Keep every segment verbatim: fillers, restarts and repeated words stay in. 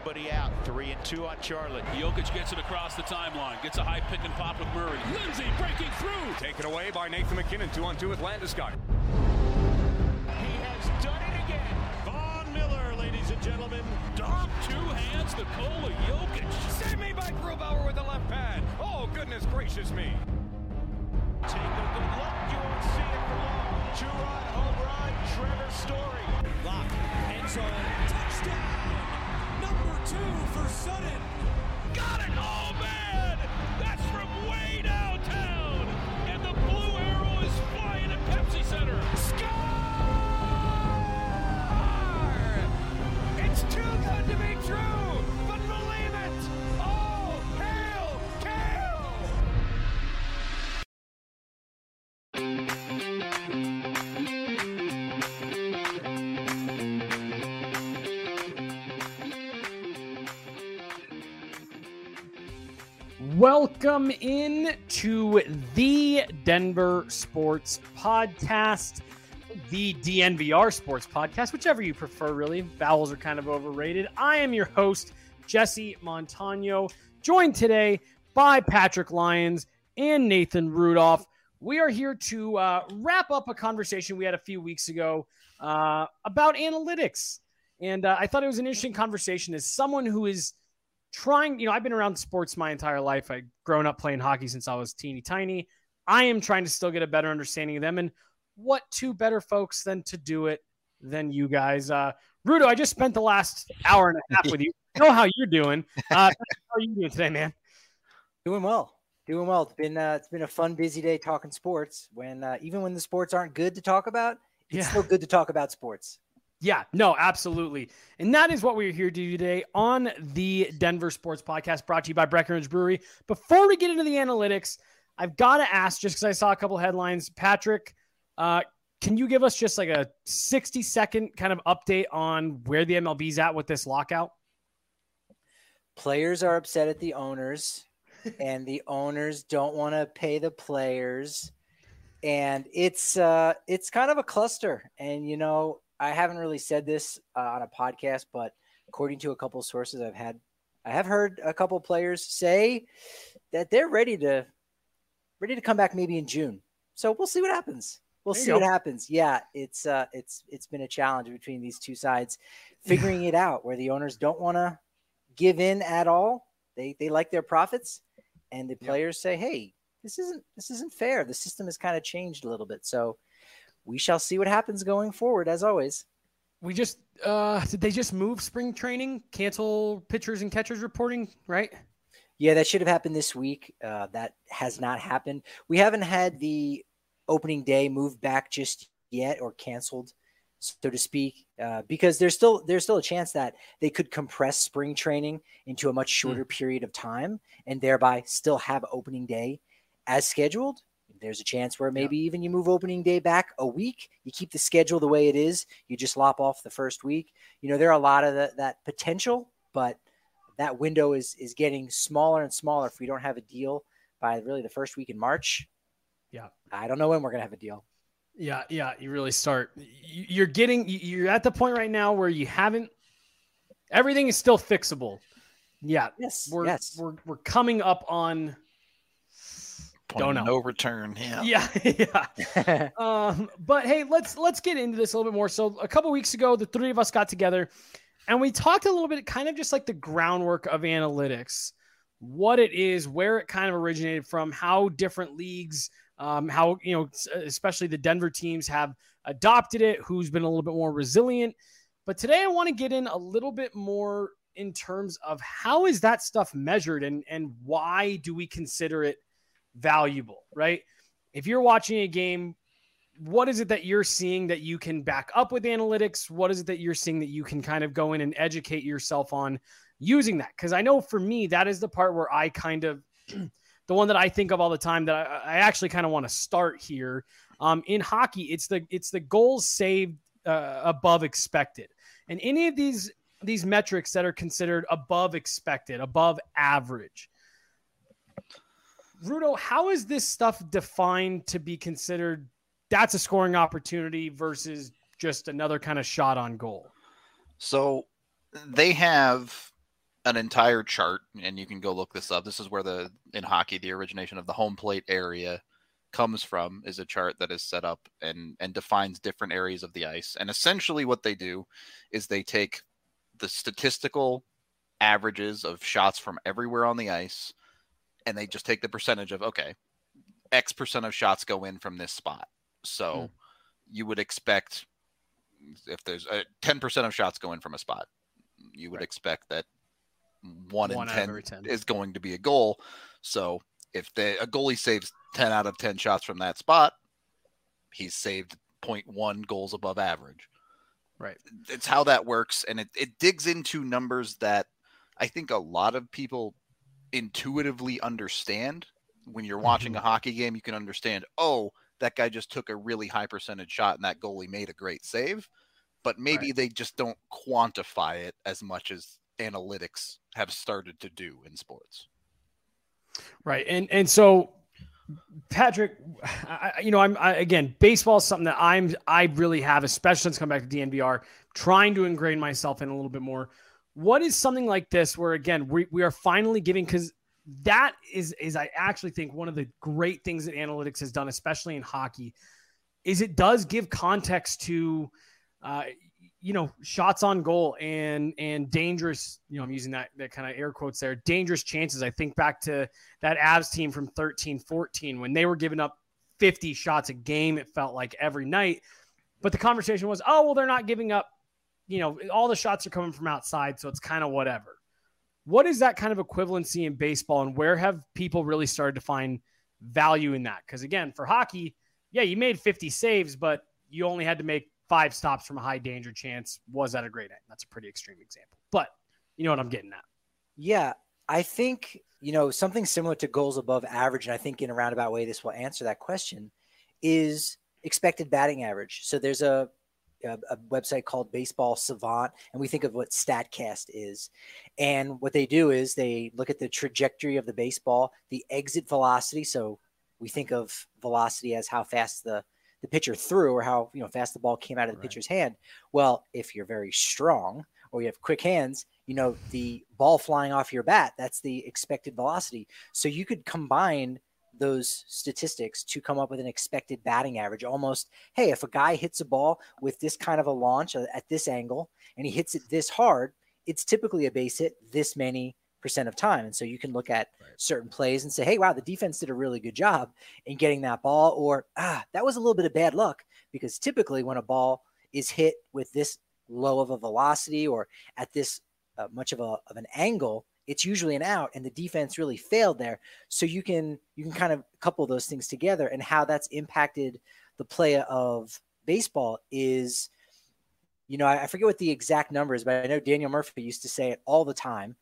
nobody out. Three and two on Charlotte. Jokic gets it across the timeline. Gets a high pick and pop with Murray. Lindsay breaking through. Taken away by Nathan McKinnon. Two on two with Landeskog. He has done it again. Von Miller, ladies and gentlemen. Dog two hands Nikola Jokic. Save me by Grubauer with the left pad. Oh, goodness gracious me. Take a good look. You won't see it for long. Two-run home run. Trevor Story. Lock. End zone. Touchdown. Number two for Sutton. Got it. Oh, man. That's from way downtown. And the blue arrow is flying at Pepsi Center. Score! It's too good to be true. But believe it. Oh, hail, Kale! Welcome in to the Denver Sports Podcast, the D N V R Sports Podcast, whichever you prefer, really. Vowels are kind of overrated. I am your host, Jesse Montano, joined today by Patrick Lyons and Nathan Rudolph. We are here to uh, wrap up a conversation we had a few weeks ago uh, about analytics. And uh, I thought it was an interesting conversation as someone who is trying, you know, I've been around sports my entire life. I've grown up playing hockey since I was teeny tiny. I am trying to still get a better understanding of them. And what two better folks than to do it than you guys? Uh, Rudo, I just spent the last hour and a half with you. I know how you're doing. Uh, how are you doing today, man? Doing well. Doing well. It's been uh, it's been a fun, busy day talking sports. When uh, even when the sports aren't good to talk about, it's Yeah. still good to talk about sports. Yeah, no, absolutely. And that is what we're here to do today on the Denver Sports Podcast, brought to you by Breckenridge Brewery. Before we get into the analytics, I've got to ask, just because I saw a couple headlines, Patrick, uh, can you give us just like a sixty second kind of update on where the M L B's at with this lockout? Players are upset at the owners, and the owners don't want to pay the players. And it's uh, it's kind of a cluster. And, you know, I haven't really said this uh, on a podcast, but according to a couple of sources I've had, I have heard a couple of players say that they're ready to ready to come back maybe in June. So we'll see what happens. We'll There you see go. what happens. Yeah, it's uh, it's it's been a challenge between these two sides figuring it out, where the owners don't want to give in at all. They they like their profits, and the players say, "Hey, this isn't this isn't fair. The system has kind of changed a little bit." So we shall see what happens going forward, as always. We just, uh, did they just move spring training, cancel pitchers and catchers reporting, right? Yeah, that should have happened this week. Uh, that has not happened. We haven't had the opening day moved back just yet or canceled, so to speak, uh, because there's still there's still a chance that they could compress spring training into a much shorter mm. period of time and thereby still have opening day as scheduled. There's a chance where maybe yeah. even you move opening day back a week. You keep the schedule the way it is. You just lop off the first week. You know, there are a lot of the, that potential, but that window is is getting smaller and smaller if we don't have a deal by really the first week in March. Yeah. I don't know when we're going to have a deal. Yeah, yeah, you really start. You're getting, you're at the point right now where you haven't, everything is still fixable. Yeah. Yes. We're, yes. we're, we're coming up on, don't know. No return. Yeah. Yeah. yeah. um, but hey, let's, let's get into this a little bit more. So a couple weeks ago, the three of us got together and we talked a little bit, kind of just like the groundwork of analytics, what it is, where it kind of originated from, how different leagues, um, how, you know, especially the Denver teams have adopted it, who's been a little bit more resilient. But today I want to get in a little bit more in terms of how is that stuff measured and, and why do we consider it valuable, right? If you're watching a game, what is it that you're seeing that you can back up with analytics? What is it that you're seeing that you can kind of go in and educate yourself on using that? Because I know for me, that is the part where I kind of, the one that I think of all the time that I, I actually kind of want to start here. Um, in hockey, it's the it's the goals saved uh, above expected. And any of these these metrics that are considered above expected, above average. Rudo, how is this stuff defined to be considered that's a scoring opportunity versus just another kind of shot on goal? So they have an entire chart, and you can go look this up. This is where the in hockey the origination of the home plate area comes from, is a chart that is set up and and defines different areas of the ice. And essentially what they do is they take the statistical averages of shots from everywhere on the ice, and they just take the percentage of, okay, X percent of shots go in from this spot. So hmm. you would expect, if there's a ten percent of shots go in from a spot, you would right. expect that one, one in ten, ten is going to be a goal. So if the, a goalie saves ten out of ten shots from that spot, he's saved zero point one goals above average. Right. It's how that works. And it, it digs into numbers that I think a lot of people intuitively understand. When you're watching mm-hmm. a hockey game, you can understand, oh, that guy just took a really high percentage shot and that goalie made a great save. But maybe right. they just don't quantify it as much as analytics have started to do in sports. Right. And and so, Patrick, I, you know, I'm I, again, baseball is something that I'm I really have, especially since coming back to D N V R, trying to ingrain myself in a little bit more. What is something like this where, again, we, we are finally giving, because that is, is I actually think one of the great things that analytics has done, especially in hockey, is it does give context to, uh, you know, shots on goal and, and dangerous, you know, I'm using that, that kind of air quotes there, dangerous chances. I think back to that Avs team from thirteen fourteen, when they were giving up fifty shots a game, it felt like every night, but the conversation was, oh, well, they're not giving up, you know, all the shots are coming from outside, so it's kind of whatever. What is that kind of equivalency in baseball, and where have people really started to find value in that? Because again, for hockey, yeah, you made fifty saves, but you only had to make five stops from a high danger chance. Was that a great end? That's a pretty extreme example, but you know what I'm getting at. Yeah, I think, you know, something similar to goals above average, and I think in a roundabout way this will answer that question, is expected batting average. So there's a A, a website called Baseball Savant, and we think of what StatCast is. And what they do is they look at the trajectory of the baseball, the exit velocity. So we think of velocity as how fast the, the pitcher threw, or how, you know, fast the ball came out of the right. pitcher's hand. Well, if you're very strong or you have quick hands, you know, the ball flying off your bat, that's the expected velocity. So you could combine those statistics to come up with an expected batting average. Almost, hey, if a guy hits a ball with this kind of a launch at this angle and he hits it this hard, it's typically a base hit this many percent of time. And so you can look at right. certain plays and say, hey, wow, the defense did a really good job in getting that ball, or ah, that was a little bit of bad luck, because typically when a ball is hit with this low of a velocity or at this uh, much of a of an angle, it's usually an out, and the defense really failed there. So you can you can kind of couple those things together, and how that's impacted the play of baseball is, you know, I, I forget what the exact number is, but I know Daniel Murphy used to say it all the time,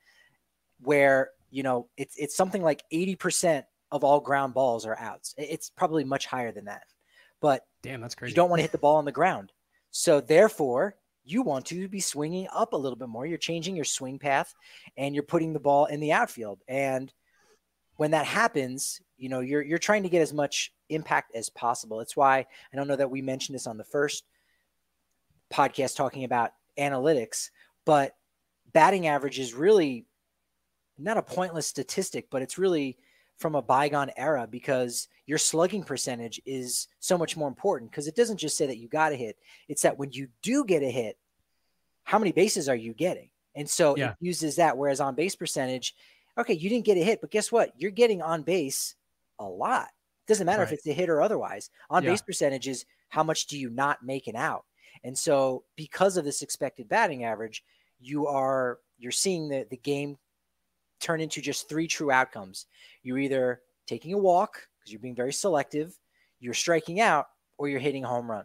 where, you know, it's it's something like eighty percent of all ground balls are outs. It's probably much higher than that, but damn, that's crazy. You don't want to hit the ball on the ground, so therefore you want to be swinging up a little bit more. You're changing your swing path and you're putting the ball in the outfield. And when that happens, you know, you're, you're trying to get as much impact as possible. It's why, I don't know that we mentioned this on the first podcast talking about analytics, but batting average is really not a pointless statistic, but it's really from a bygone era, because your slugging percentage is so much more important, because it doesn't just say that you got a hit. It's that when you do get a hit, how many bases are you getting? And so yeah. it uses that. Whereas on base percentage, okay, you didn't get a hit, but guess what? You're getting on base a lot. It doesn't matter right. if it's a hit or otherwise. On yeah. base percentage is how much do you not make an out? And so because of this expected batting average, you are, you're seeing the, the game turn into just three true outcomes. You're either taking a walk because you're being very selective, you're striking out, or you're hitting a home run.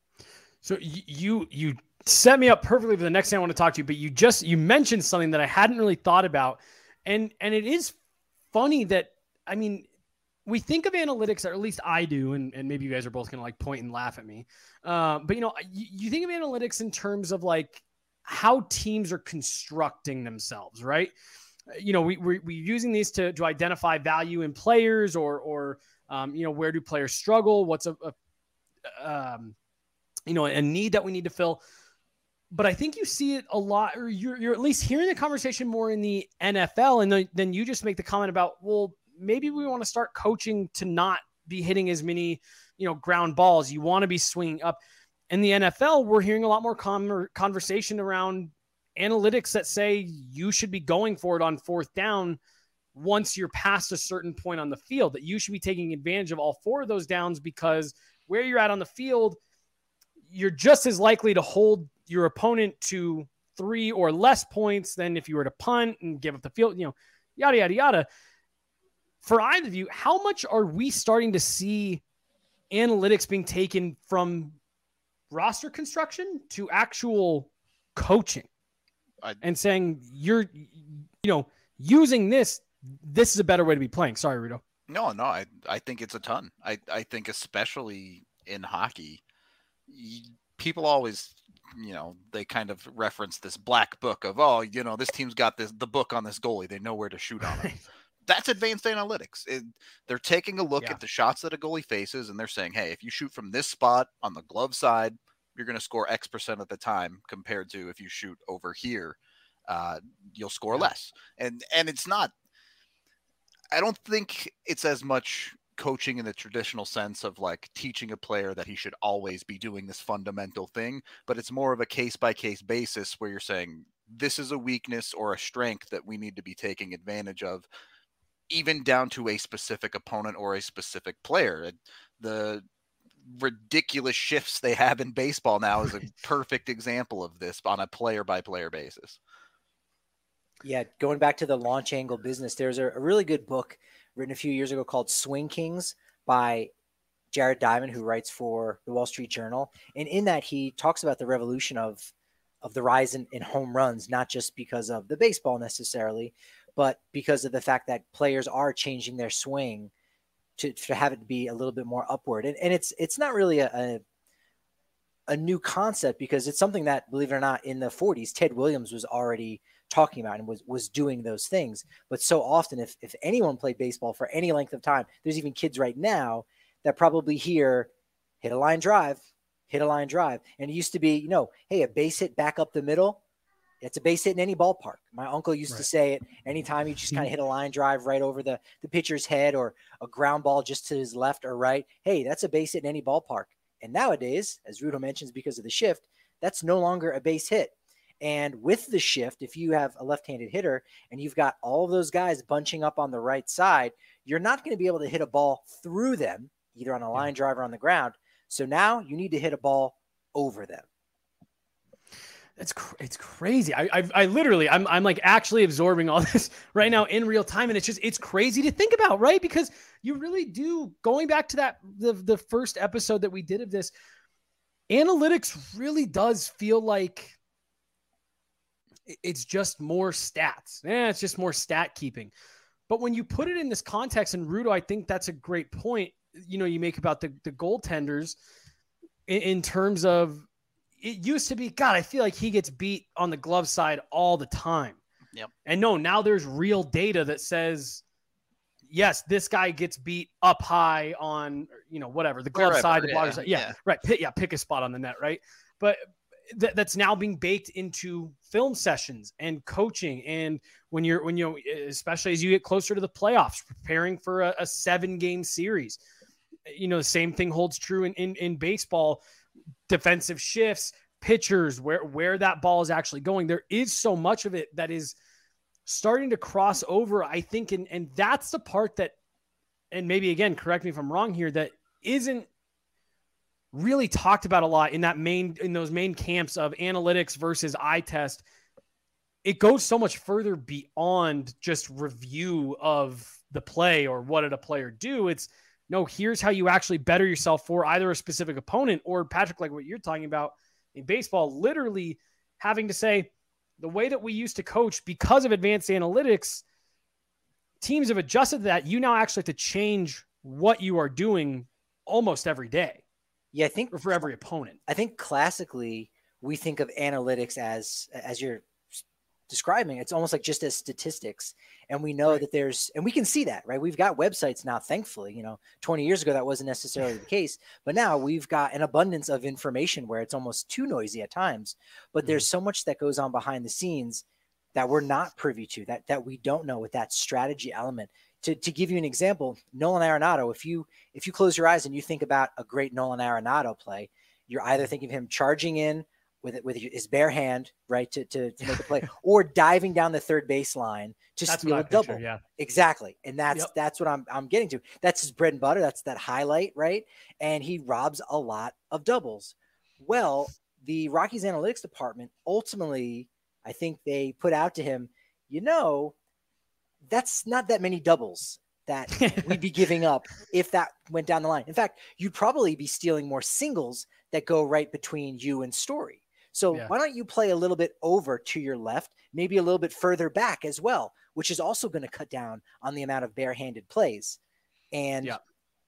So you you set me up perfectly for the next thing I want to talk to you, but you just you mentioned something that I hadn't really thought about. And and it is funny that, I mean, we think of analytics, or at least I do, and, and maybe you guys are both going to like point and laugh at me. Uh, but, you know, you, you think of analytics in terms of like how teams are constructing themselves, right? You know, we, we, we're using these to, to identify value in players, or, or um, you know, where do players struggle? What's a, a um, you know, a need that we need to fill. but I think you see it a lot, or you're, you're at least hearing the conversation more in the N F L. And then, then you just make the comment about, well, maybe we want to start coaching to not be hitting as many, you know, ground balls. You want to be swinging up. In the N F L, we're hearing a lot more com- conversation around analytics that say you should be going for it on fourth down once you're past a certain point on the field, that you should be taking advantage of all four of those downs, because where you're at on the field, you're just as likely to hold your opponent to three or less points than if you were to punt and give up the field, you know, yada, yada, yada. For either of you, how much are we starting to see analytics being taken from roster construction to actual coaching I, and saying you're, you know, using this, this is a better way to be playing? Sorry, Rudo. No, no, I, I think it's a ton. I, I think especially in hockey, people always, you know, they kind of reference this black book of, oh, you know, this team's got this, the book on this goalie. They know where to shoot on him. That's advanced analytics. It, they're taking a look yeah. at the shots that a goalie faces, and they're saying, hey, if you shoot from this spot on the glove side, you're going to score X percent of the time, compared to if you shoot over here, uh, you'll score less. And, and it's not, I don't think it's as much coaching in the traditional sense of like teaching a player that he should always be doing this fundamental thing, but it's more of a case by case basis where you're saying this is a weakness or a strength that we need to be taking advantage of, even down to a specific opponent or a specific player. The ridiculous shifts they have in baseball now is a perfect example of this on a player by player basis. Yeah, going back to the launch angle business, there's a, a really good book written a few years ago called Swing Kings by Jared Diamond, who writes for the Wall Street Journal. And in that, he talks about the revolution of, of the rise in, in home runs, not just because of the baseball necessarily, but because of the fact that players are changing their swing to, to have it be a little bit more upward. And, and it's it's not really a, a a new concept, because it's something that, believe it or not, in the forties, Ted Williams was already talking about and was, was doing those things. But so often, if, if anyone played baseball for any length of time, there's even kids right now that probably hear, hit a line drive, hit a line drive. And it used to be, you know, hey, a base hit back up the middle, it's a base hit in any ballpark. My uncle used right. to say it anytime you just kind of hit a line drive right over the, the pitcher's head, or a ground ball just to his left or right. Hey, that's a base hit in any ballpark. And nowadays, as Rudo mentions, because of the shift, that's no longer a base hit. And with the shift, if you have a left-handed hitter and you've got all of those guys bunching up on the right side, you're not going to be able to hit a ball through them, either on a line drive or on the ground. So now you need to hit a ball over them. It's cr- it's crazy. I, I I literally I'm I'm like actually absorbing all this right now in real time, and it's just it's crazy to think about, right? Because you really do, going back to that the the first episode that we did of this, analytics really does feel like it's just more stats. Yeah, it's just more stat keeping. But when you put it in this context, and Rudo, I think that's a great point, you know, you make about the the goaltenders in, in terms of, it used to be, God, I feel like he gets beat on the glove side all the time. Yep. And no, now there's real data that says, yes, this guy gets beat up high on, you know, whatever, the glove Wherever, side, the yeah, blocker side. Yeah, yeah. right. Pick, yeah, pick a spot on the net, right? But th- that's now being baked into film sessions and coaching. And when you're, when you, especially as you get closer to the playoffs, preparing for a, a seven game series, you know, the same thing holds true in, in, in baseball. Defensive shifts, pitchers, where, where that ball is actually going. There is so much of it that is starting to cross over, I think. And, and that's the part that, and maybe again, correct me if I'm wrong here, that isn't really talked about a lot in that main, in those main camps of analytics versus eye test. It goes so much further beyond just review of the play or what did a player do. It's, no, here's how you actually better yourself for either a specific opponent or, Patrick, like what you're talking about in baseball, literally having to say the way that we used to coach because of advanced analytics, teams have adjusted to that. You now actually have to change what you are doing almost every day. Yeah, I think or for every opponent. I think classically we think of analytics as, as you're describing. It's almost like just as statistics. And we know Right. that there's, and we can see that, right? We've got websites now, thankfully. You know, twenty years ago, that wasn't necessarily the case. But now we've got an abundance of information where it's almost too noisy at times. But Mhm. there's so much that goes on behind the scenes that we're not privy to, that that we don't know, with that strategy element. To, to give you an example, Nolan Arenado, if you if you close your eyes and you think about a great Nolan Arenado play, you're either thinking of him charging in with it with his bare hand, right, to, to, to make a play, or diving down the third baseline to That's steal what I a picture, double. yeah. Exactly. And that's Yep. that's what I'm I'm getting to. That's his bread and butter. That's that highlight, right? And he robs a lot of doubles. Well, the Rockies analytics department ultimately, I think they put out to him, you know, that's not that many doubles that we'd be giving up if that went down the line. In fact, you'd probably be stealing more singles that go right between you and Story. So Yeah. why don't you play a little bit over to your left, maybe a little bit further back as well, which is also going to cut down on the amount of barehanded plays. And Yeah.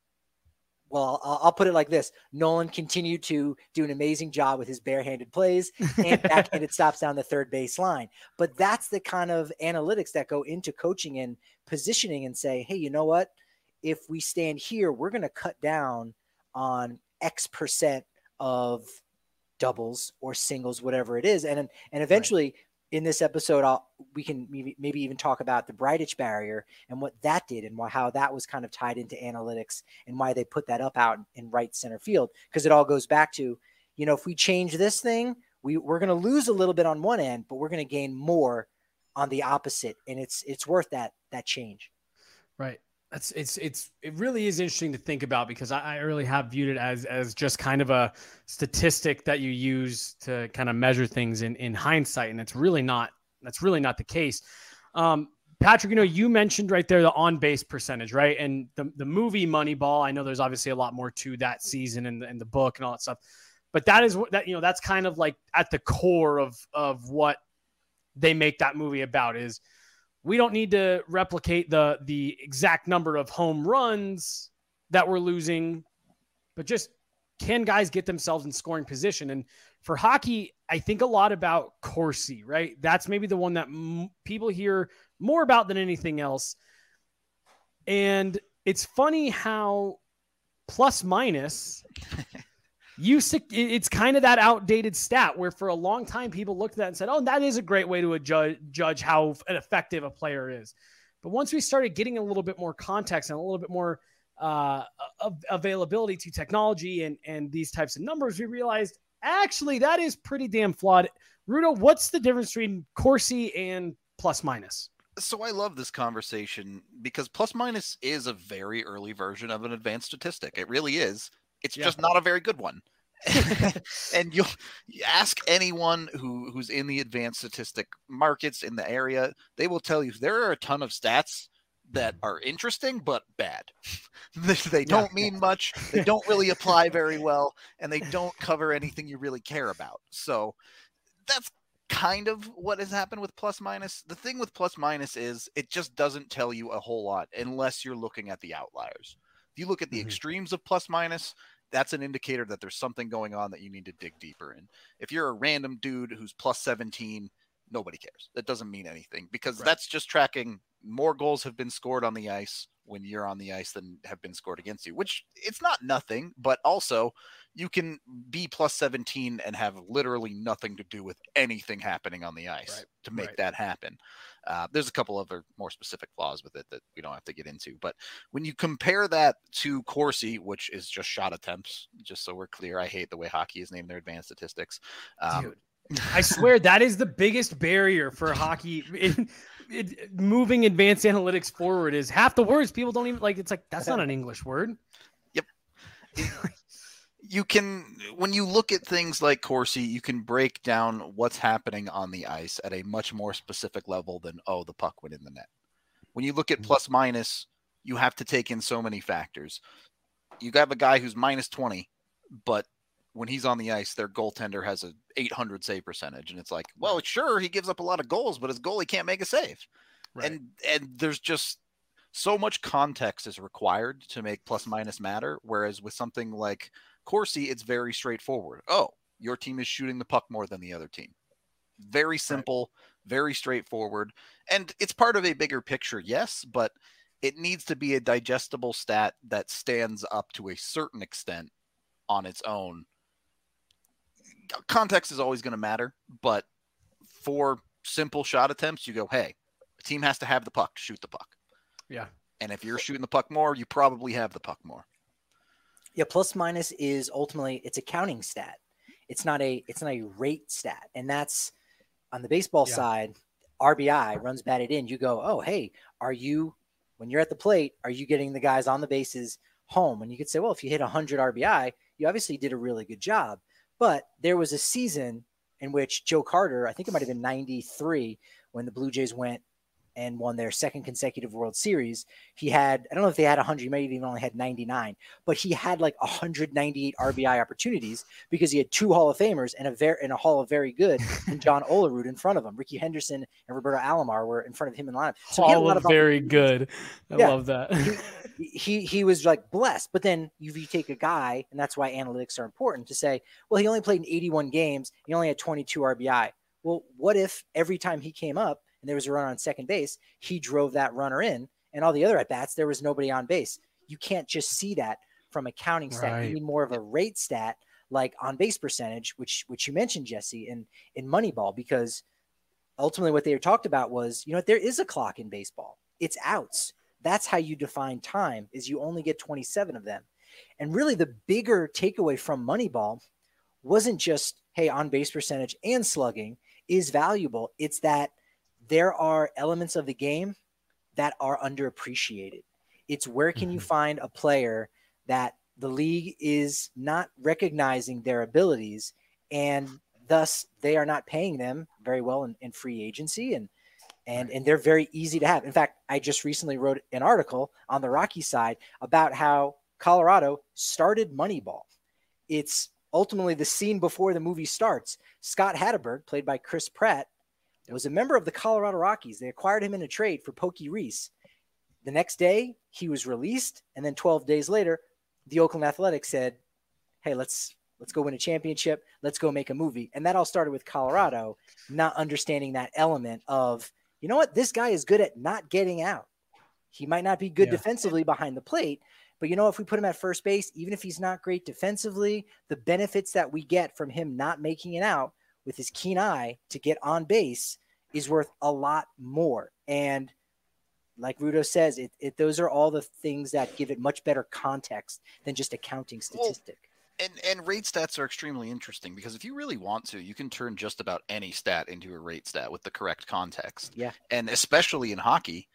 well, I'll, I'll put it like this. Nolan continued to do an amazing job with his barehanded plays and backhanded stops down the third base line. But that's the kind of analytics that go into coaching and positioning and say, hey, you know what? If we stand here, we're going to cut down on X percent of doubles or singles, whatever it is. And, and eventually in this episode, I'll, we can maybe, maybe even talk about the Breidich barrier and what that did and why, how that was kind of tied into analytics and why they put that up out in right center field. Because it all goes back to, you know, if we change this thing, we, we're going to lose a little bit on one end, but we're going to gain more on the opposite. And it's, it's worth that, that change. Right. That's it's it's it really is interesting to think about, because I, I really have viewed it as as just kind of a statistic that you use to kind of measure things in in hindsight, and it's really not that's really not the case. Um, Patrick, you know, you mentioned right there the on base percentage, right? And the the movie Moneyball. I know there's obviously a lot more to that season and the, and the book and all that stuff, but that is what that you know that's kind of like at the core of of what they make that movie about is. We don't need to replicate the the exact number of home runs that we're losing, but just can guys get themselves in scoring position? And for hockey, I think a lot about Corsi, right? That's maybe the one that m- people hear more about than anything else. And it's funny how plus minus used to, it's kind of that outdated stat where for a long time people looked at that and said, oh, that is a great way to judge, judge how effective a player is. But once we started getting a little bit more context and a little bit more uh, of availability to technology and, and these types of numbers, we realized actually that is pretty damn flawed. Rudo, what's the difference between Corsi and plus minus? So I love this conversation because plus minus is a very early version of an advanced statistic. It really is. It's Yeah. just not a very good one. And you'll you ask anyone who, who's in the advanced statistic markets in the area, they will tell you there are a ton of stats that are interesting, but bad. they, they don't mean much. They don't really apply very well, and they don't cover anything you really care about. So that's kind of what has happened with plus minus. The thing with plus minus is it just doesn't tell you a whole lot unless you're looking at the outliers. If you look at the mm-hmm. extremes of plus minus, that's an indicator that there's something going on that you need to dig deeper in. If you're a random dude who's plus seventeen, nobody cares. That doesn't mean anything because right. that's just tracking more goals have been scored on the ice when you're on the ice than have been scored against you, which it's not nothing, but also you can be plus seventeen and have literally nothing to do with anything happening on the ice right. to make right. that happen. Uh, there's a couple other more specific flaws with it that we don't have to get into, but when you compare that to Corsi, which is just shot attempts, just so we're clear, I hate the way hockey is named their advanced statistics. Um, Dude, I swear that is the biggest barrier for hockey in, in moving advanced analytics forward is half the words people don't even like. It's like, that's not an English word. Yep. You can, when you look at things like Corsi, you can break down what's happening on the ice at a much more specific level than, oh, the puck went in the net. When you look at plus minus, you have to take in so many factors. You have a guy who's minus twenty, but when he's on the ice, their goaltender has a eight hundred save percentage. And it's like, well, sure, he gives up a lot of goals, but his goalie can't make a save. Right. And, and there's just so much context is required to make plus minus matter. Whereas with something like Corsi, it's very straightforward. Oh, your team is shooting the puck more than the other team. Very simple, right. Very straightforward. And it's part of a bigger picture, yes, but it needs to be a digestible stat that stands up to a certain extent on its own. Context is always going to matter, but for simple shot attempts, you go, hey, a team has to have the puck to shoot the puck. Yeah. And if you're shooting the puck more, you probably have the puck more. Yeah, plus minus is ultimately it's a counting stat. It's not a it's not a rate stat. And that's on the baseball yeah. side, R B I, runs batted in. You go, oh, hey, are you, when you're at the plate, are you getting the guys on the bases home? And you could say, well, if you hit one hundred R B I, you obviously did a really good job. But there was a season in which Joe Carter, I think it might have been ninety-three, when the Blue Jays went and won their second consecutive World Series. He had, I don't know if they had one hundred, he might have even only had ninety-nine, but he had like one hundred ninety-eight R B I opportunities because he had two Hall of Famers and a very, and a Hall of Very Good and John Olerud in front of him. Ricky Henderson and Roberto Alomar were in front of him in line. So Hall he had a lot of Very Good. I yeah. love that. he, he he was like blessed, but then you, you take a guy, and that's why analytics are important, to say, well, he only played in eighty-one games. He only had twenty-two R B I. Well, what if every time he came up, and there was a runner on second base, he drove that runner in, and all the other at-bats, there was nobody on base. You can't just see that from a counting stat. Right. You need more of a rate stat, like on base percentage, which which you mentioned, Jesse, in, in Moneyball, because ultimately what they talked about was, you know, there is a clock in baseball. It's outs. That's how you define time, is you only get twenty-seven of them. And really the bigger takeaway from Moneyball wasn't just, hey, on base percentage and slugging is valuable. It's that there are elements of the game that are underappreciated. It's where can you find a player that the league is not recognizing their abilities, and thus they are not paying them very well in, in free agency, and and and they're very easy to have. In fact, I just recently wrote an article on the Rocky side about how Colorado started Moneyball. It's ultimately the scene before the movie starts. Scott Hatteberg, played by Chris Pratt, was a member of the Colorado Rockies. They acquired him in a trade for Pokey Reese. The next day, he was released, and then twelve days later, the Oakland Athletics said, hey, let's let's go win a championship. Let's go make a movie. And that all started with Colorado not understanding that element of, you know what, this guy is good at not getting out. He might not be good yeah. defensively behind the plate, but, you know, if we put him at first base, even if he's not great defensively, the benefits that we get from him not making it out with his keen eye to get on base is worth a lot more. And like Rudo says, it, it those are all the things that give it much better context than just a counting statistic. Well, and, and rate stats are extremely interesting because if you really want to, you can turn just about any stat into a rate stat with the correct context. Yeah. And especially in hockey,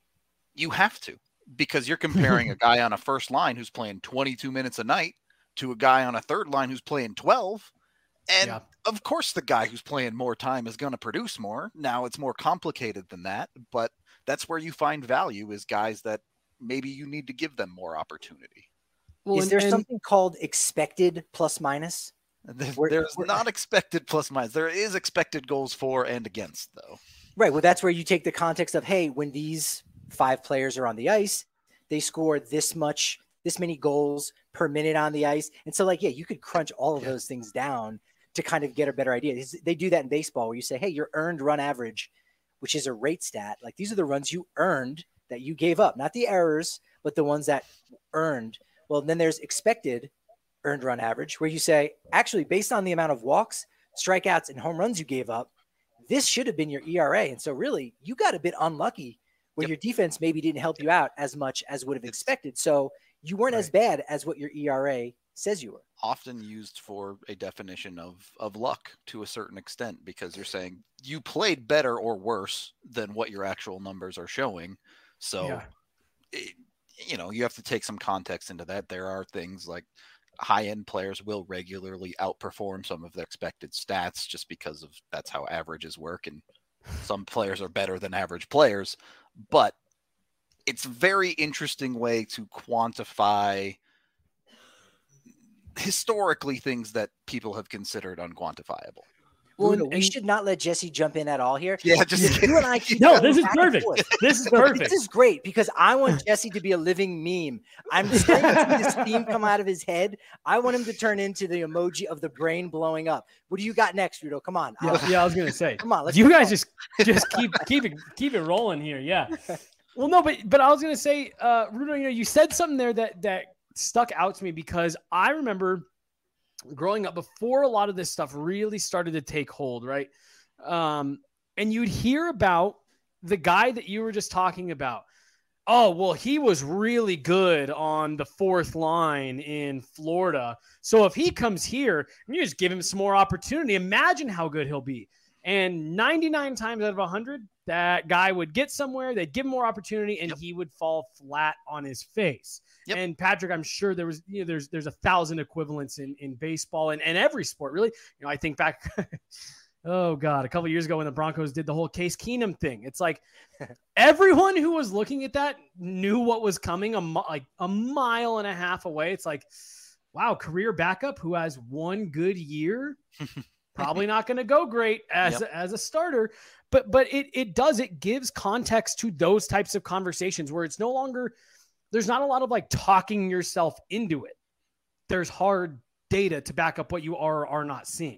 you have to, because you're comparing a guy on a first line who's playing twenty-two minutes a night to a guy on a third line who's playing twelve. And yeah. of course, the guy who's playing more time is going to produce more. Now it's more complicated than that, but that's where you find value, is guys that maybe you need to give them more opportunity. Well, is and, there and, something called expected plus minus? There's, there's not expected plus minus. There is expected goals for and against, though. Right. Well, that's where you take the context of, hey, when these five players are on the ice, they score this much, this many goals per minute on the ice. And so, like, yeah, you could crunch all of yeah. those things down to kind of get a better idea. They do that in baseball where you say, hey, your earned run average, which is a rate stat. Like, these are the runs you earned that you gave up, not the errors, but the ones that earned. Well, then there's expected earned run average, where you say, actually, based on the amount of walks, strikeouts, and home runs you gave up, this should have been your E R A. And so really, you got a bit unlucky where yep. your defense maybe didn't help you out as much as would have expected. So you weren't right. as bad as what your E R A says you were. Often used for a definition of, of luck to a certain extent, because you're saying you played better or worse than what your actual numbers are showing. So, yeah. it, you know, you have to take some context into that. There are things like high-end players will regularly outperform some of their expected stats just because of that's how averages work. And some players are better than average players, but it's a very interesting way to quantify historically things that people have considered unquantifiable. Well, Rudo, we and- should not let Jesse jump in at all here. Yeah, just You and I keep No, going this is back and perfect. forth. This is But perfect. This is great because I want Jesse to be a living meme. I'm starting to see this theme come out of his head. I want him to turn into the emoji of the brain blowing up. What do you got next, Rudo? Come on. Yeah, Uh, yeah, I was gonna say. Come on, let's you go. guys just just keep keep it keep it rolling here. Yeah. Well, no, but but I was gonna say, uh, Rudo, you know, you said something there that that stuck out to me because I remember growing up before a lot of this stuff really started to take hold, right? Um, and you'd hear about the guy that you were just talking about. Oh, well, he was really good on the fourth line in Florida. So if he comes here and you just give him some more opportunity, imagine how good he'll be. And ninety-nine times out of one hundred, that guy would get somewhere, they'd give him more opportunity, and Yep. he would fall flat on his face. Yep. And Patrick, I'm sure there was, you know, there's there's a thousand equivalents in, in baseball and, and every sport, really. You know, I think back, oh God, a couple of years ago when the Broncos did the whole Case Keenum thing. It's like everyone who was looking at that knew what was coming a mi- like a mile and a half away. It's like, wow, career backup who has one good year. Probably not going to go great as, Yep. as a starter, but but it it does it gives context to those types of conversations where it's no longer there's not a lot of like talking yourself into it. There's hard data to back up what you are or are not seeing.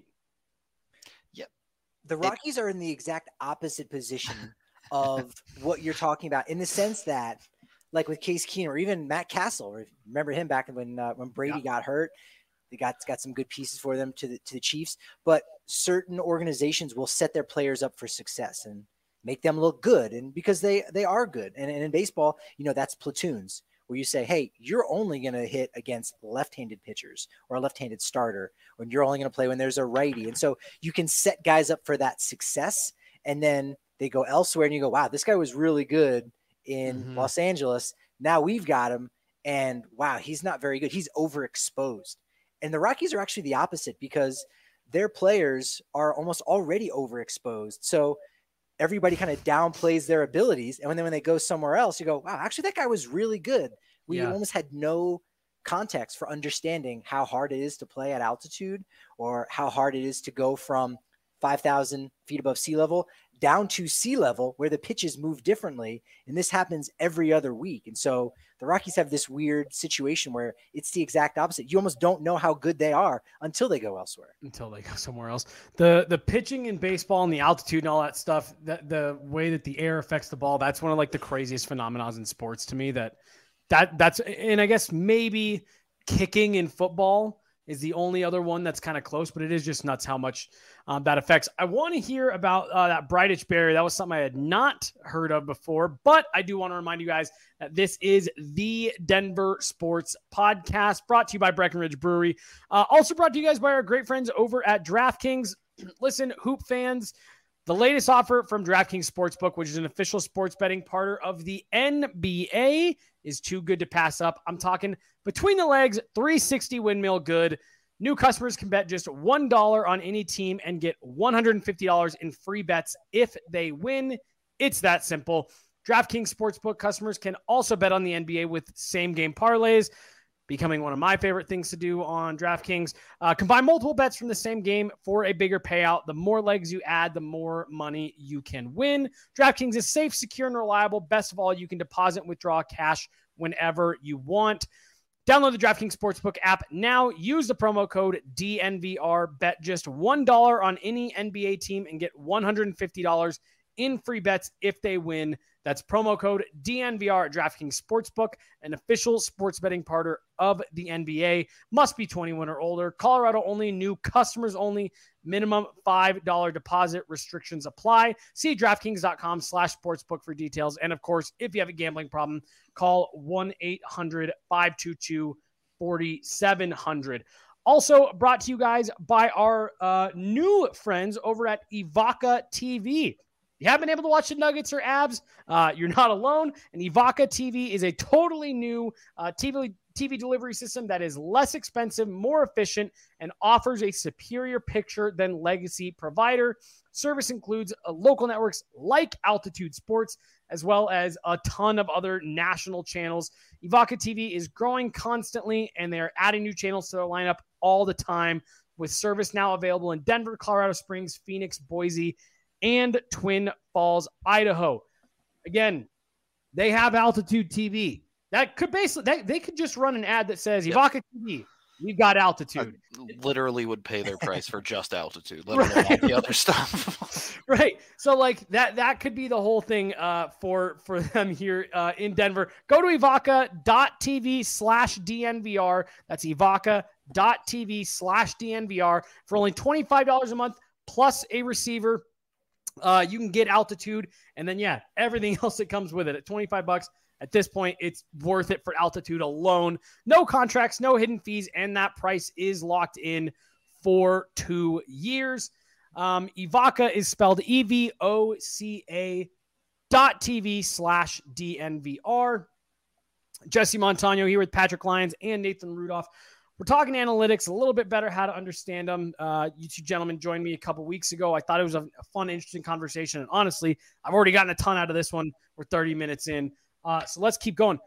The Rockies are in the exact opposite position of what you're talking about in the sense that, like with Case Keenum or even Matt Castle, remember him back when uh, when Brady Yeah. got hurt. They got got some good pieces for them to the to the Chiefs, but certain organizations will set their players up for success and make them look good, and because they they are good. And, and in baseball, you know, that's platoons where you say, hey, you're only going to hit against left-handed pitchers or a left-handed starter, when you're only going to play when there's a righty. And so you can set guys up for that success, and then they go elsewhere and you go, wow, this guy was really good in Mhm. Los Angeles. Now we've got him, and wow, he's not very good. He's overexposed. And the Rockies are actually the opposite because their players are almost already overexposed. So everybody kind of downplays their abilities. And when, then when they go somewhere else, you go, wow, actually that guy was really good. We Yeah. almost had no context for understanding how hard it is to play at altitude or how hard it is to go from five thousand feet above sea level down to sea level where the pitches move differently. And this happens every other week. And so the Rockies have this weird situation where it's the exact opposite. You almost don't know how good they are until they go elsewhere. Until they go somewhere else. The the pitching in baseball and the altitude and all that stuff, that the way that the air affects the ball, that's one of like the craziest phenomena in sports to me. That that that's and I guess maybe kicking in football is the only other one that's kind of close, but it is just nuts how much um, that affects. I want to hear about uh, that Bright Itch barrier. That was something I had not heard of before, but I do want to remind you guys that this is the Denver Sports Podcast, brought to you by Breckenridge Brewery. Uh, also brought to you guys by our great friends over at DraftKings. Listen, hoop fans, the latest offer from DraftKings Sportsbook, which is an official sports betting partner of the N B A, is too good to pass up. I'm talking between the legs, three sixty windmill good. New customers can bet just one dollar on any team and get one hundred fifty dollars in free bets if they win. It's that simple. DraftKings Sportsbook customers can also bet on the N B A with same-game parlays, becoming one of my favorite things to do on DraftKings. Uh, combine multiple bets from the same game for a bigger payout. The more legs you add, the more money you can win. DraftKings is safe, secure, and reliable. Best of all, you can deposit and withdraw cash whenever you want. Download the DraftKings Sportsbook app now. Use the promo code D N V R. Bet just one dollar on any N B A team and get one hundred fifty dollars in free bets if they win. That's promo code D N V R at DraftKings Sportsbook, an official sports betting partner of the N B A. Must be twenty-one or older. Colorado only. New customers only. Minimum five dollars deposit. Restrictions apply. See DraftKings.com slash sportsbook for details. And, of course, if you have a gambling problem, call one eight hundred five two two four seven zero zero. Also brought to you guys by our uh, new friends over at Evoca T V. You haven't been able to watch the Nuggets or Abs, uh, you're not alone. And Evoca T V is a totally new uh, T V T V delivery system that is less expensive, more efficient, and offers a superior picture than legacy provider. Service includes uh, local networks like Altitude Sports, as well as a ton of other national channels. Evoca T V is growing constantly, and they're adding new channels to their lineup all the time. with service now available in Denver, Colorado Springs, Phoenix, Boise, and Twin Falls, Idaho. Again, they have Altitude T V. That could basically, that, they could just run an ad that says, Evoca T V, we've got Altitude. I literally would pay their price for just Altitude, let alone all Right. the other stuff. Right. So like that, that could be the whole thing uh, for, for them here uh, in Denver. Go to evoca.tv slash DNVR. That's evoca.tv slash DNVR for only twenty-five dollars a month plus a receiver. Uh, you can get Altitude, and then, yeah, everything else that comes with it at twenty-five bucks. At this point, it's worth it for Altitude alone. No contracts, no hidden fees, and that price is locked in for two years. Um, Evoca is spelled E V O C A dot TV slash DNVR. Jesse Montano here with Patrick Lyons and Nathan Rudolph. We're talking analytics a little bit better, how to understand them. Uh, you two gentlemen joined me a couple weeks ago. I thought it was a, a fun, interesting conversation. And honestly, I've already gotten a ton out of this one. We're thirty minutes in. Uh, so let's keep going.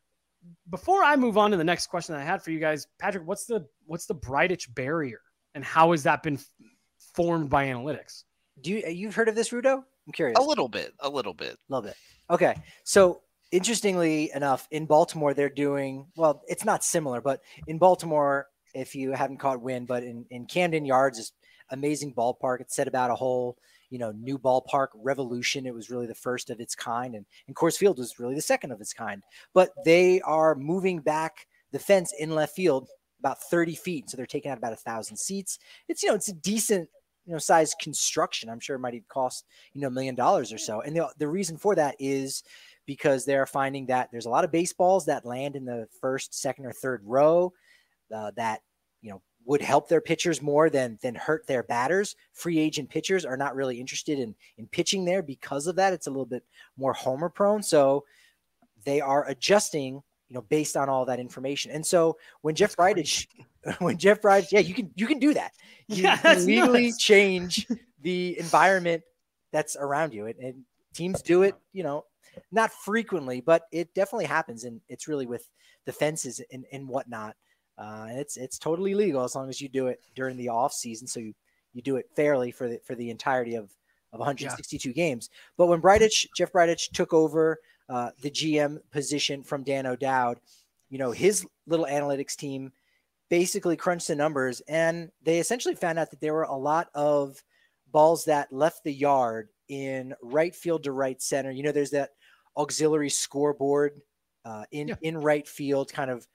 Before I move on to the next question that I had for you guys, Patrick, what's the what's the Breitich barrier, and how has that been f- formed by analytics? Do you you've heard of this, Rudo? I'm curious. A little bit, a little bit. A little bit. Okay. So interestingly enough, in Baltimore, they're doing, well, it's not similar, but in Baltimore, if you haven't caught wind, but in, in Camden Yards, is amazing ballpark. It's set about a whole, you know, new ballpark revolution. It was really the first of its kind. And, and Coors Field was really the second of its kind. But they are moving back the fence in left field about thirty feet. So they're taking out about a thousand seats. It's, you know, it's a decent, you know, size construction. I'm sure it might even cost, you know, a million dollars or so. And the, the reason for that is because they're finding that there's a lot of baseballs that land in the first, second, or third row uh, that, you know, would help their pitchers more than than hurt their batters. Free agent pitchers are not really interested in in pitching there because of that. It's a little bit more homer prone. So they are adjusting, you know, based on all that information. And so when Jeff Breitich, when Jeff Breitich, yeah, you can you can do that. You Yeah, can that's legally nuts. change the environment that's around you. And, and teams do it, you know, not frequently, but it definitely happens. And it's really with the fences and, and whatnot. Uh, and it's it's totally legal as long as you do it during the off season. So you, you do it fairly for the for the entirety of, of one hundred sixty-two yeah. games. But when Breitich, Jeff Breitich took over uh, the G M position from Dan O'Dowd, you know, his little analytics team basically crunched the numbers, and they essentially found out that there were a lot of balls that left the yard in right field to right center. You know, there's that auxiliary scoreboard uh, in, yeah. in right field, kind of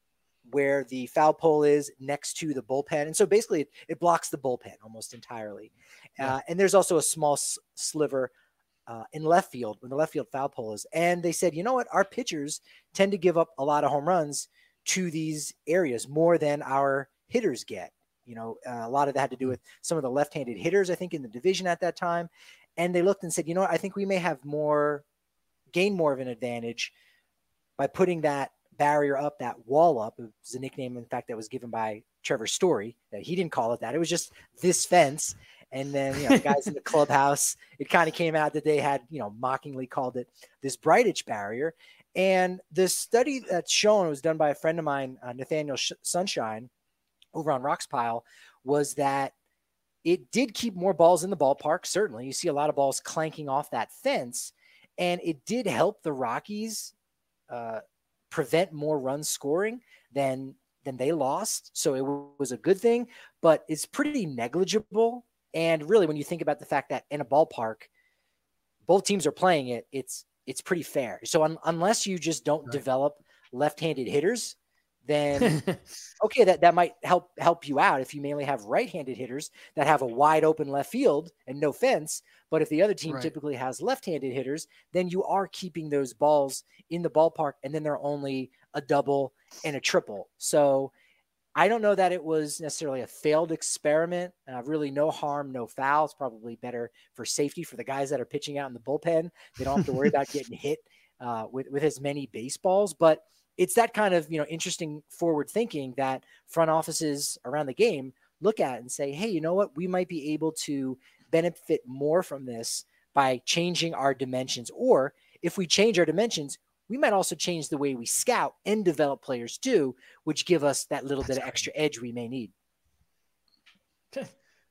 where the foul pole is next to the bullpen. And so basically it, it blocks the bullpen almost entirely. Yeah. Uh, and there's also a small s- sliver uh, in left field when the left field foul pole is. And they said, you know what, our pitchers tend to give up a lot of home runs to these areas more than our hitters get. You know, uh, a lot of that had to do with some of the left-handed hitters, I think, in the division at that time. And they looked and said, you know what, I think we may have more, gain more of an advantage by putting that barrier up, that wall up. It was a nickname, in fact, that was given by Trevor Story. That he didn't call it that. It was just this fence. And then, you know, the guys in the clubhouse, it kind of came out that they had, you know, mockingly called it this Breitich barrier. And the study that's shown was done by a friend of mine, uh, Nathaniel Sh- Sunshine, over on Rocks Pile, was that it did keep more balls in the ballpark. Certainly, you see a lot of balls clanking off that fence, and it did help the Rockies uh, prevent more runs scoring than than they lost. So it w- was a good thing, but it's pretty negligible. And really, when you think about the fact that in a ballpark, both teams are playing it, it's it's pretty fair. So un- unless you just don't right. develop left-handed hitters, then okay, that, that might help help you out if you mainly have right-handed hitters that have a wide open left field and no fence. But if the other team right. typically has left-handed hitters, then you are keeping those balls in the ballpark, and then they're only a double and a triple. So I don't know that it was necessarily a failed experiment. Uh, really no harm, no foul. It's probably better for safety for the guys that are pitching out in the bullpen. They don't have to worry about getting hit uh, with, with as many baseballs. But it's that kind of, you know, interesting forward thinking that front offices around the game look at and say, hey, you know what, we might be able to benefit more from this by changing our dimensions. Or if we change our dimensions, we might also change the way we scout and develop players too, which give us that little That's bit of extra edge we may need.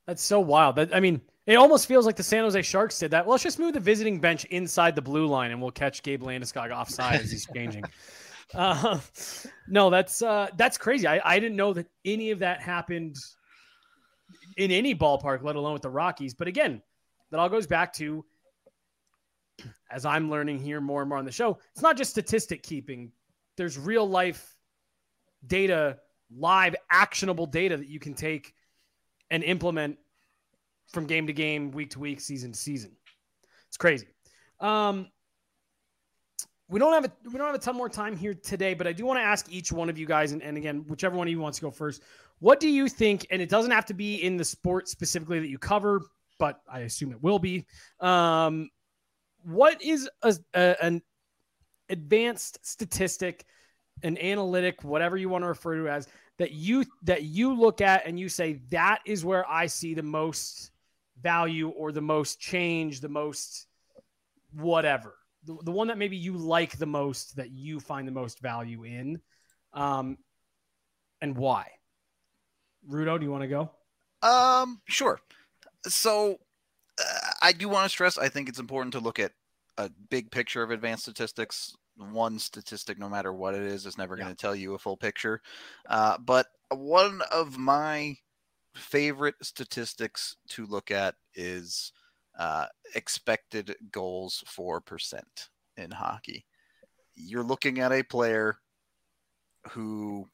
That's so wild. That I mean, it almost feels like the San Jose Sharks did that. Well, let's just move the visiting bench inside the blue line, and we'll catch Gabe Landeskog offside as he's changing. Uh, no, that's uh, that's crazy. I, I didn't know that any of that happened in any ballpark, let alone with the Rockies. But again, that all goes back to, as I'm learning here more and more on the show, it's not just statistic keeping. There's real life data, live actionable data that you can take and implement from game to game, week to week, season to season. It's crazy. Um, we don't have a, we don't have a ton more time here today, but I do want to ask each one of you guys, and, and again, whichever one of you wants to go first, what do you think, and it doesn't have to be in the sport specifically that you cover, but I assume it will be. Um, what is a, a, an advanced statistic, an analytic, whatever you want to refer to as, that you that you look at and you say, that is where I see the most value or the most change, the most whatever, the, the one that maybe you like the most, that you find the most value in, um, and why? Rudo, do you want to go? Um, sure. So uh, I do want to stress, I think it's important to look at a big picture of advanced statistics. One statistic, no matter what it is, is never yeah. going to tell you a full picture. Uh, but one of my favorite statistics to look at is uh, expected goals for percent in hockey. You're looking at a player who,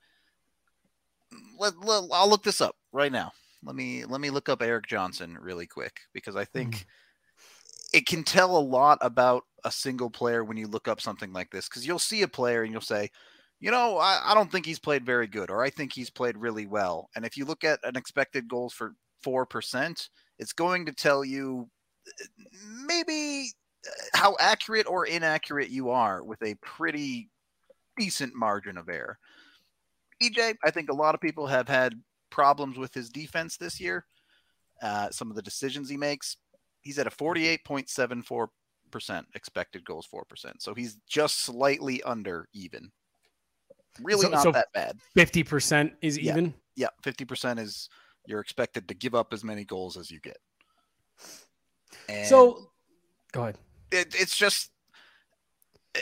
let, let, I'll look this up right now. Let me let me look up Erik Johnson really quick, because I think mm. it can tell a lot about a single player when you look up something like this, because you'll see a player and you'll say, you know, I, I don't think he's played very good, or I think he's played really well. And if you look at an expected goals for four percent, it's going to tell you maybe how accurate or inaccurate you are with a pretty decent margin of error. E J, I think a lot of people have had problems with his defense this year. Uh, some of the decisions he makes, he's at a forty-eight point seven four percent expected goals four percent. So he's just slightly under even. Really so, not so that bad. fifty percent is yeah. even? Yeah, fifty percent is you're expected to give up as many goals as you get. And so, go ahead. It, it's just uh,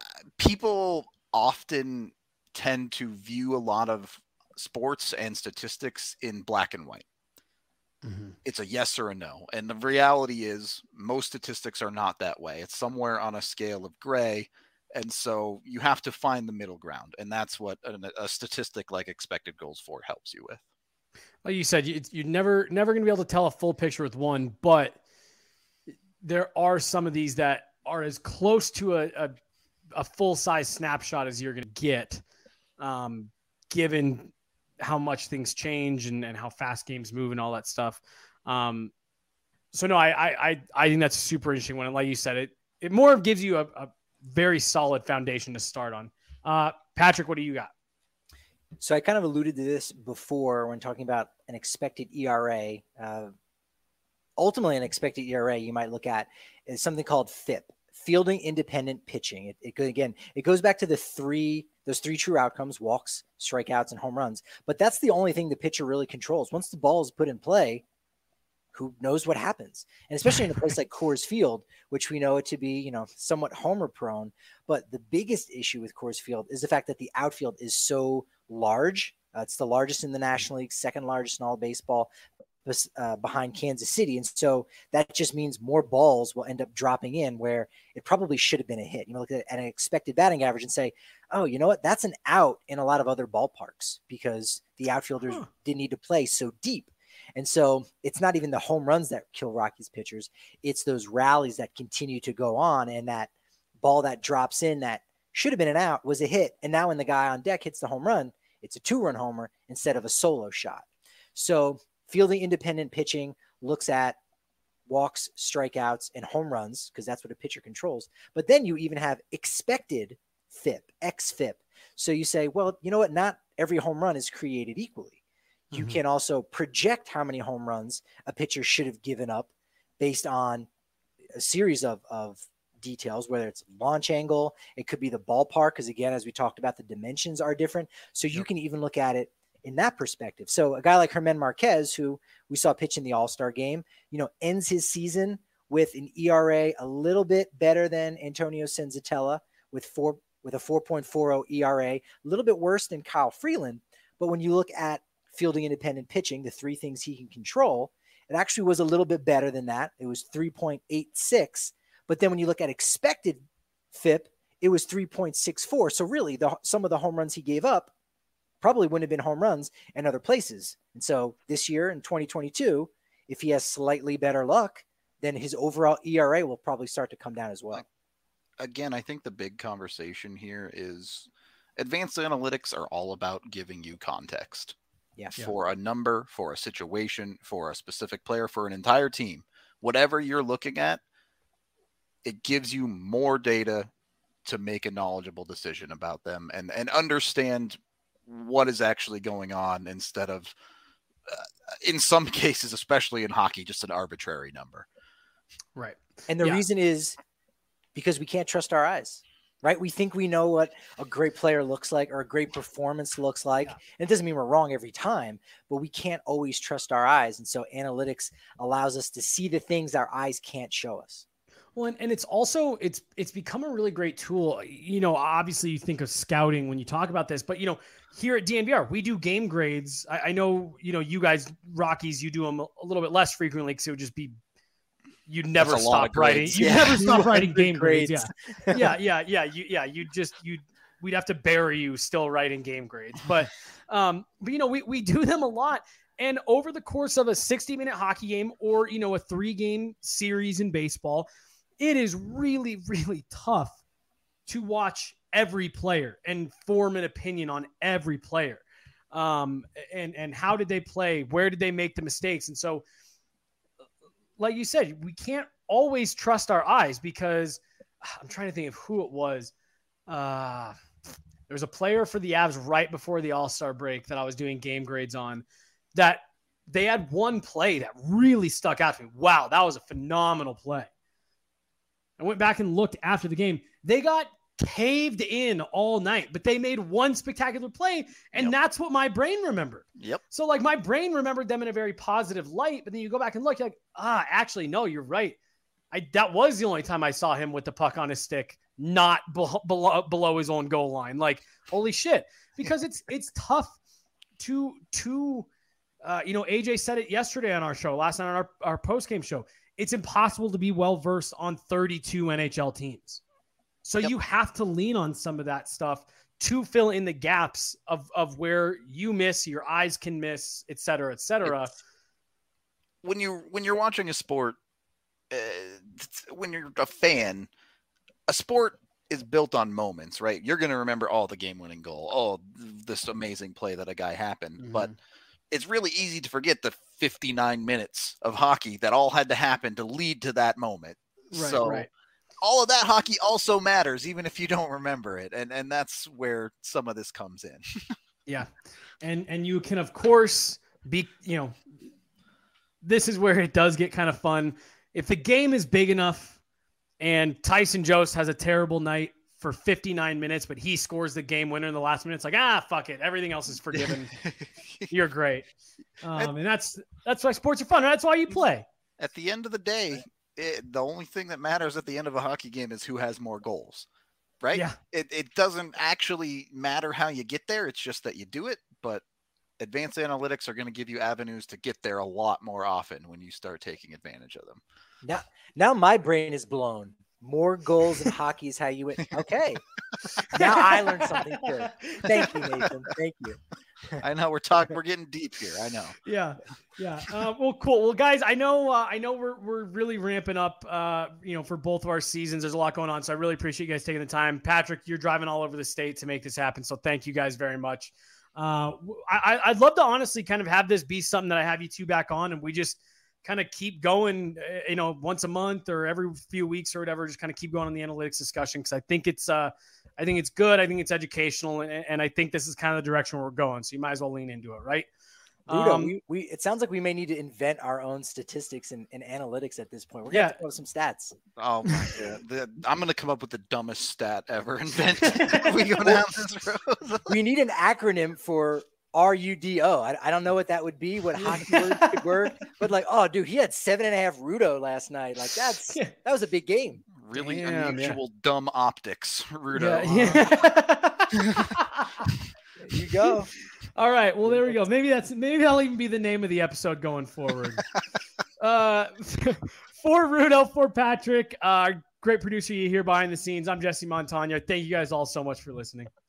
people often tend to view a lot of sports and statistics in black and white. Mm-hmm. It's a yes or a no. And the reality is most statistics are not that way. It's somewhere on a scale of gray. And so you have to find the middle ground. And that's what a, a statistic like expected goals for helps you with. Like you said, you, you're never, never going to be able to tell a full picture with one, but there are some of these that are as close to a, a, a full-size snapshot as you're going to get, um, given how much things change and, and how fast games move and all that stuff. Um, so no, I, I, I, I think that's a super interesting one. And like you said, it, it more gives you a, a very solid foundation to start on. Uh, Patrick, what do you got? So I kind of alluded to this before when talking about an expected E R A. Uh, ultimately, an expected E R A you might look at is something called F I P, fielding independent pitching. It, it again, it goes back to the three, those three true outcomes: walks, strikeouts, and home runs. But that's the only thing the pitcher really controls. Once the ball is put in play, who knows what happens? And especially in a place like Coors Field, which we know it to be, you know, somewhat homer prone. But the biggest issue with Coors Field is the fact that the outfield is so large. Uh, it's the largest in the National League, second largest in all baseball, uh, behind Kansas City. And so that just means more balls will end up dropping in where it probably should have been a hit. You know, look at an expected batting average and say, oh, you know what? That's an out in a lot of other ballparks because the outfielders huh. didn't need to play so deep. And so it's not even the home runs that kill Rockies pitchers. It's those rallies that continue to go on, and that ball that drops in that should have been an out was a hit. And now when the guy on deck hits the home run, it's a two-run homer instead of a solo shot. So fielding independent pitching looks at walks, strikeouts, and home runs because that's what a pitcher controls. But then you even have expected F I P, X F I P. So you say, well, you know what? Not every home run is created equally. You mm-hmm. can also project how many home runs a pitcher should have given up based on a series of, of details, whether it's launch angle, it could be the ballpark, because again, as we talked about, the dimensions are different. So you yep. can even look at it in that perspective. So a guy like Germán Marquez, who we saw pitch in the All-Star game, you know, ends his season with an E R A a little bit better than Antonio Senzatella with four with a four point four oh E R A, a little bit worse than Kyle Freeland. But when you look at fielding independent pitching, the three things he can control, it actually was a little bit better than that. It was three point eight six. But then when you look at expected F I P, it was three point six four. So really, the, some of the home runs he gave up probably wouldn't have been home runs in other places. And so this year in twenty twenty-two, if he has slightly better luck, then his overall E R A will probably start to come down as well. Again, I think the big conversation here is advanced analytics are all about giving you context. Yeah. For a number, for a situation, for a specific player, for an entire team. Whatever you're looking at, it gives you more data to make a knowledgeable decision about them and, and understand what is actually going on instead of, uh, in some cases, especially in hockey, just an arbitrary number. Right. And the Yeah. reason is because we can't trust our eyes, right? We think we know what a great player looks like or a great performance looks like. Yeah. And it doesn't mean we're wrong every time, but we can't always trust our eyes. And so analytics allows us to see the things our eyes can't show us. Well, and, and it's also, it's, it's become a really great tool. You know, obviously you think of scouting when you talk about this, but you know, here at D N V R, we do game grades. I, I know, you know, you guys Rockies, you do them a, a little bit less frequently because it would just be, you'd never That's a lot of stop writing. grades. You Yeah. never stop writing game Grades. grades. Yeah. yeah. Yeah. Yeah. You, yeah. You just, you, we'd have to bury you still writing game grades, but, um, but you know, we, we do them a lot. And over the course of a sixty minute hockey game or, you know, a three game series in baseball, it is really, really tough to watch every player and form an opinion on every player. Um, and, and how did they play? Where did they make the mistakes? And so, like you said, we can't always trust our eyes because I'm trying to think of who it was. Uh, there was a player for the Avs right before the All-Star break that I was doing game grades on that they had one play that really stuck out to me. Wow, that was a phenomenal play. I went back and looked after the game. They got caved in all night, but they made one spectacular play, and Yep. that's what my brain remembered. Yep. So, like, my brain remembered them in a very positive light, but then you go back and look, you're like, ah, actually, no, you're right. I that was the only time I saw him with the puck on his stick, not be- below below his own goal line. Like, holy shit! Because it's it's tough to to uh, you know, A J said it yesterday on our show, last night on our our post game show. It's impossible to be well versed on thirty-two N H L teams. So Yep. you have to lean on some of that stuff to fill in the gaps of, of where you miss, your eyes can miss, et cetera, et cetera. It's- When you when you're watching a sport, uh, when you're a fan, a sport is built on moments, right? You're going to remember, oh, the game-winning goal, oh, this amazing play that a guy happened, Mhm. but it's really easy to forget the fifty-nine minutes of hockey that all had to happen to lead to that moment. Right, so right. all of that hockey also matters, even if you don't remember it. And and that's where some of this comes in. Yeah. And and you can, of course, be, you know, this is where it does get kind of fun. If the game is big enough and Tyson Jost has a terrible night for fifty-nine minutes, but he scores the game winner in the last minute, it's like, ah, fuck it. Everything else is forgiven. You're great. Um, and that's that's why sports are fun. That's why you play. At the end of the day, it, the only thing that matters at the end of a hockey game is who has more goals, right? Yeah. It, it doesn't actually matter how you get there. It's just that you do it. But advanced analytics are going to give you avenues to get there a lot more often when you start taking advantage of them. Now, now my brain is blown. More goals in hockey is how you win. Okay. Now I learned something good. Thank you, Nathan. Thank you. I know we're talking, we're getting deep here. I know. Yeah. Yeah. Uh, well, cool. Well, guys, I know, uh, I know we're, we're really ramping up, uh, you know, for both of our seasons. There's a lot going on. So I really appreciate you guys taking the time. Patrick, you're driving all over the state to make this happen. So thank you guys very much. Uh, I, I'd love to honestly kind of have this be something that I have you two back on and we just kind of keep going, you know, once a month or every few weeks or whatever, just kind of keep going on the analytics discussion. Cause I think it's, uh, I think it's good. I think it's educational and, and I think this is kind of the direction we're going. So you might as well lean into it. Right. Ludo, Um, we, we, it sounds like we may need to invent our own statistics and, and analytics at this point. We're Yeah. going to have some stats. Oh my God. The, I'm going to come up with the dumbest stat ever invented. we go down this road. We need an acronym for R U D O. I, I don't know what that would be, what hockey word could work, but like, oh, dude, he had seven and a half Rudo last night. Like that's Yeah. that was a big game. Really Damn, unusual, dumb optics, Rudo. Yeah, yeah. There you go. All right. Well, there we go. Maybe that's maybe that'll even be the name of the episode going forward. uh, for Rudo, for Patrick, uh, great producer you hear behind the scenes. I'm Jesse Montagna. Thank you guys all so much for listening.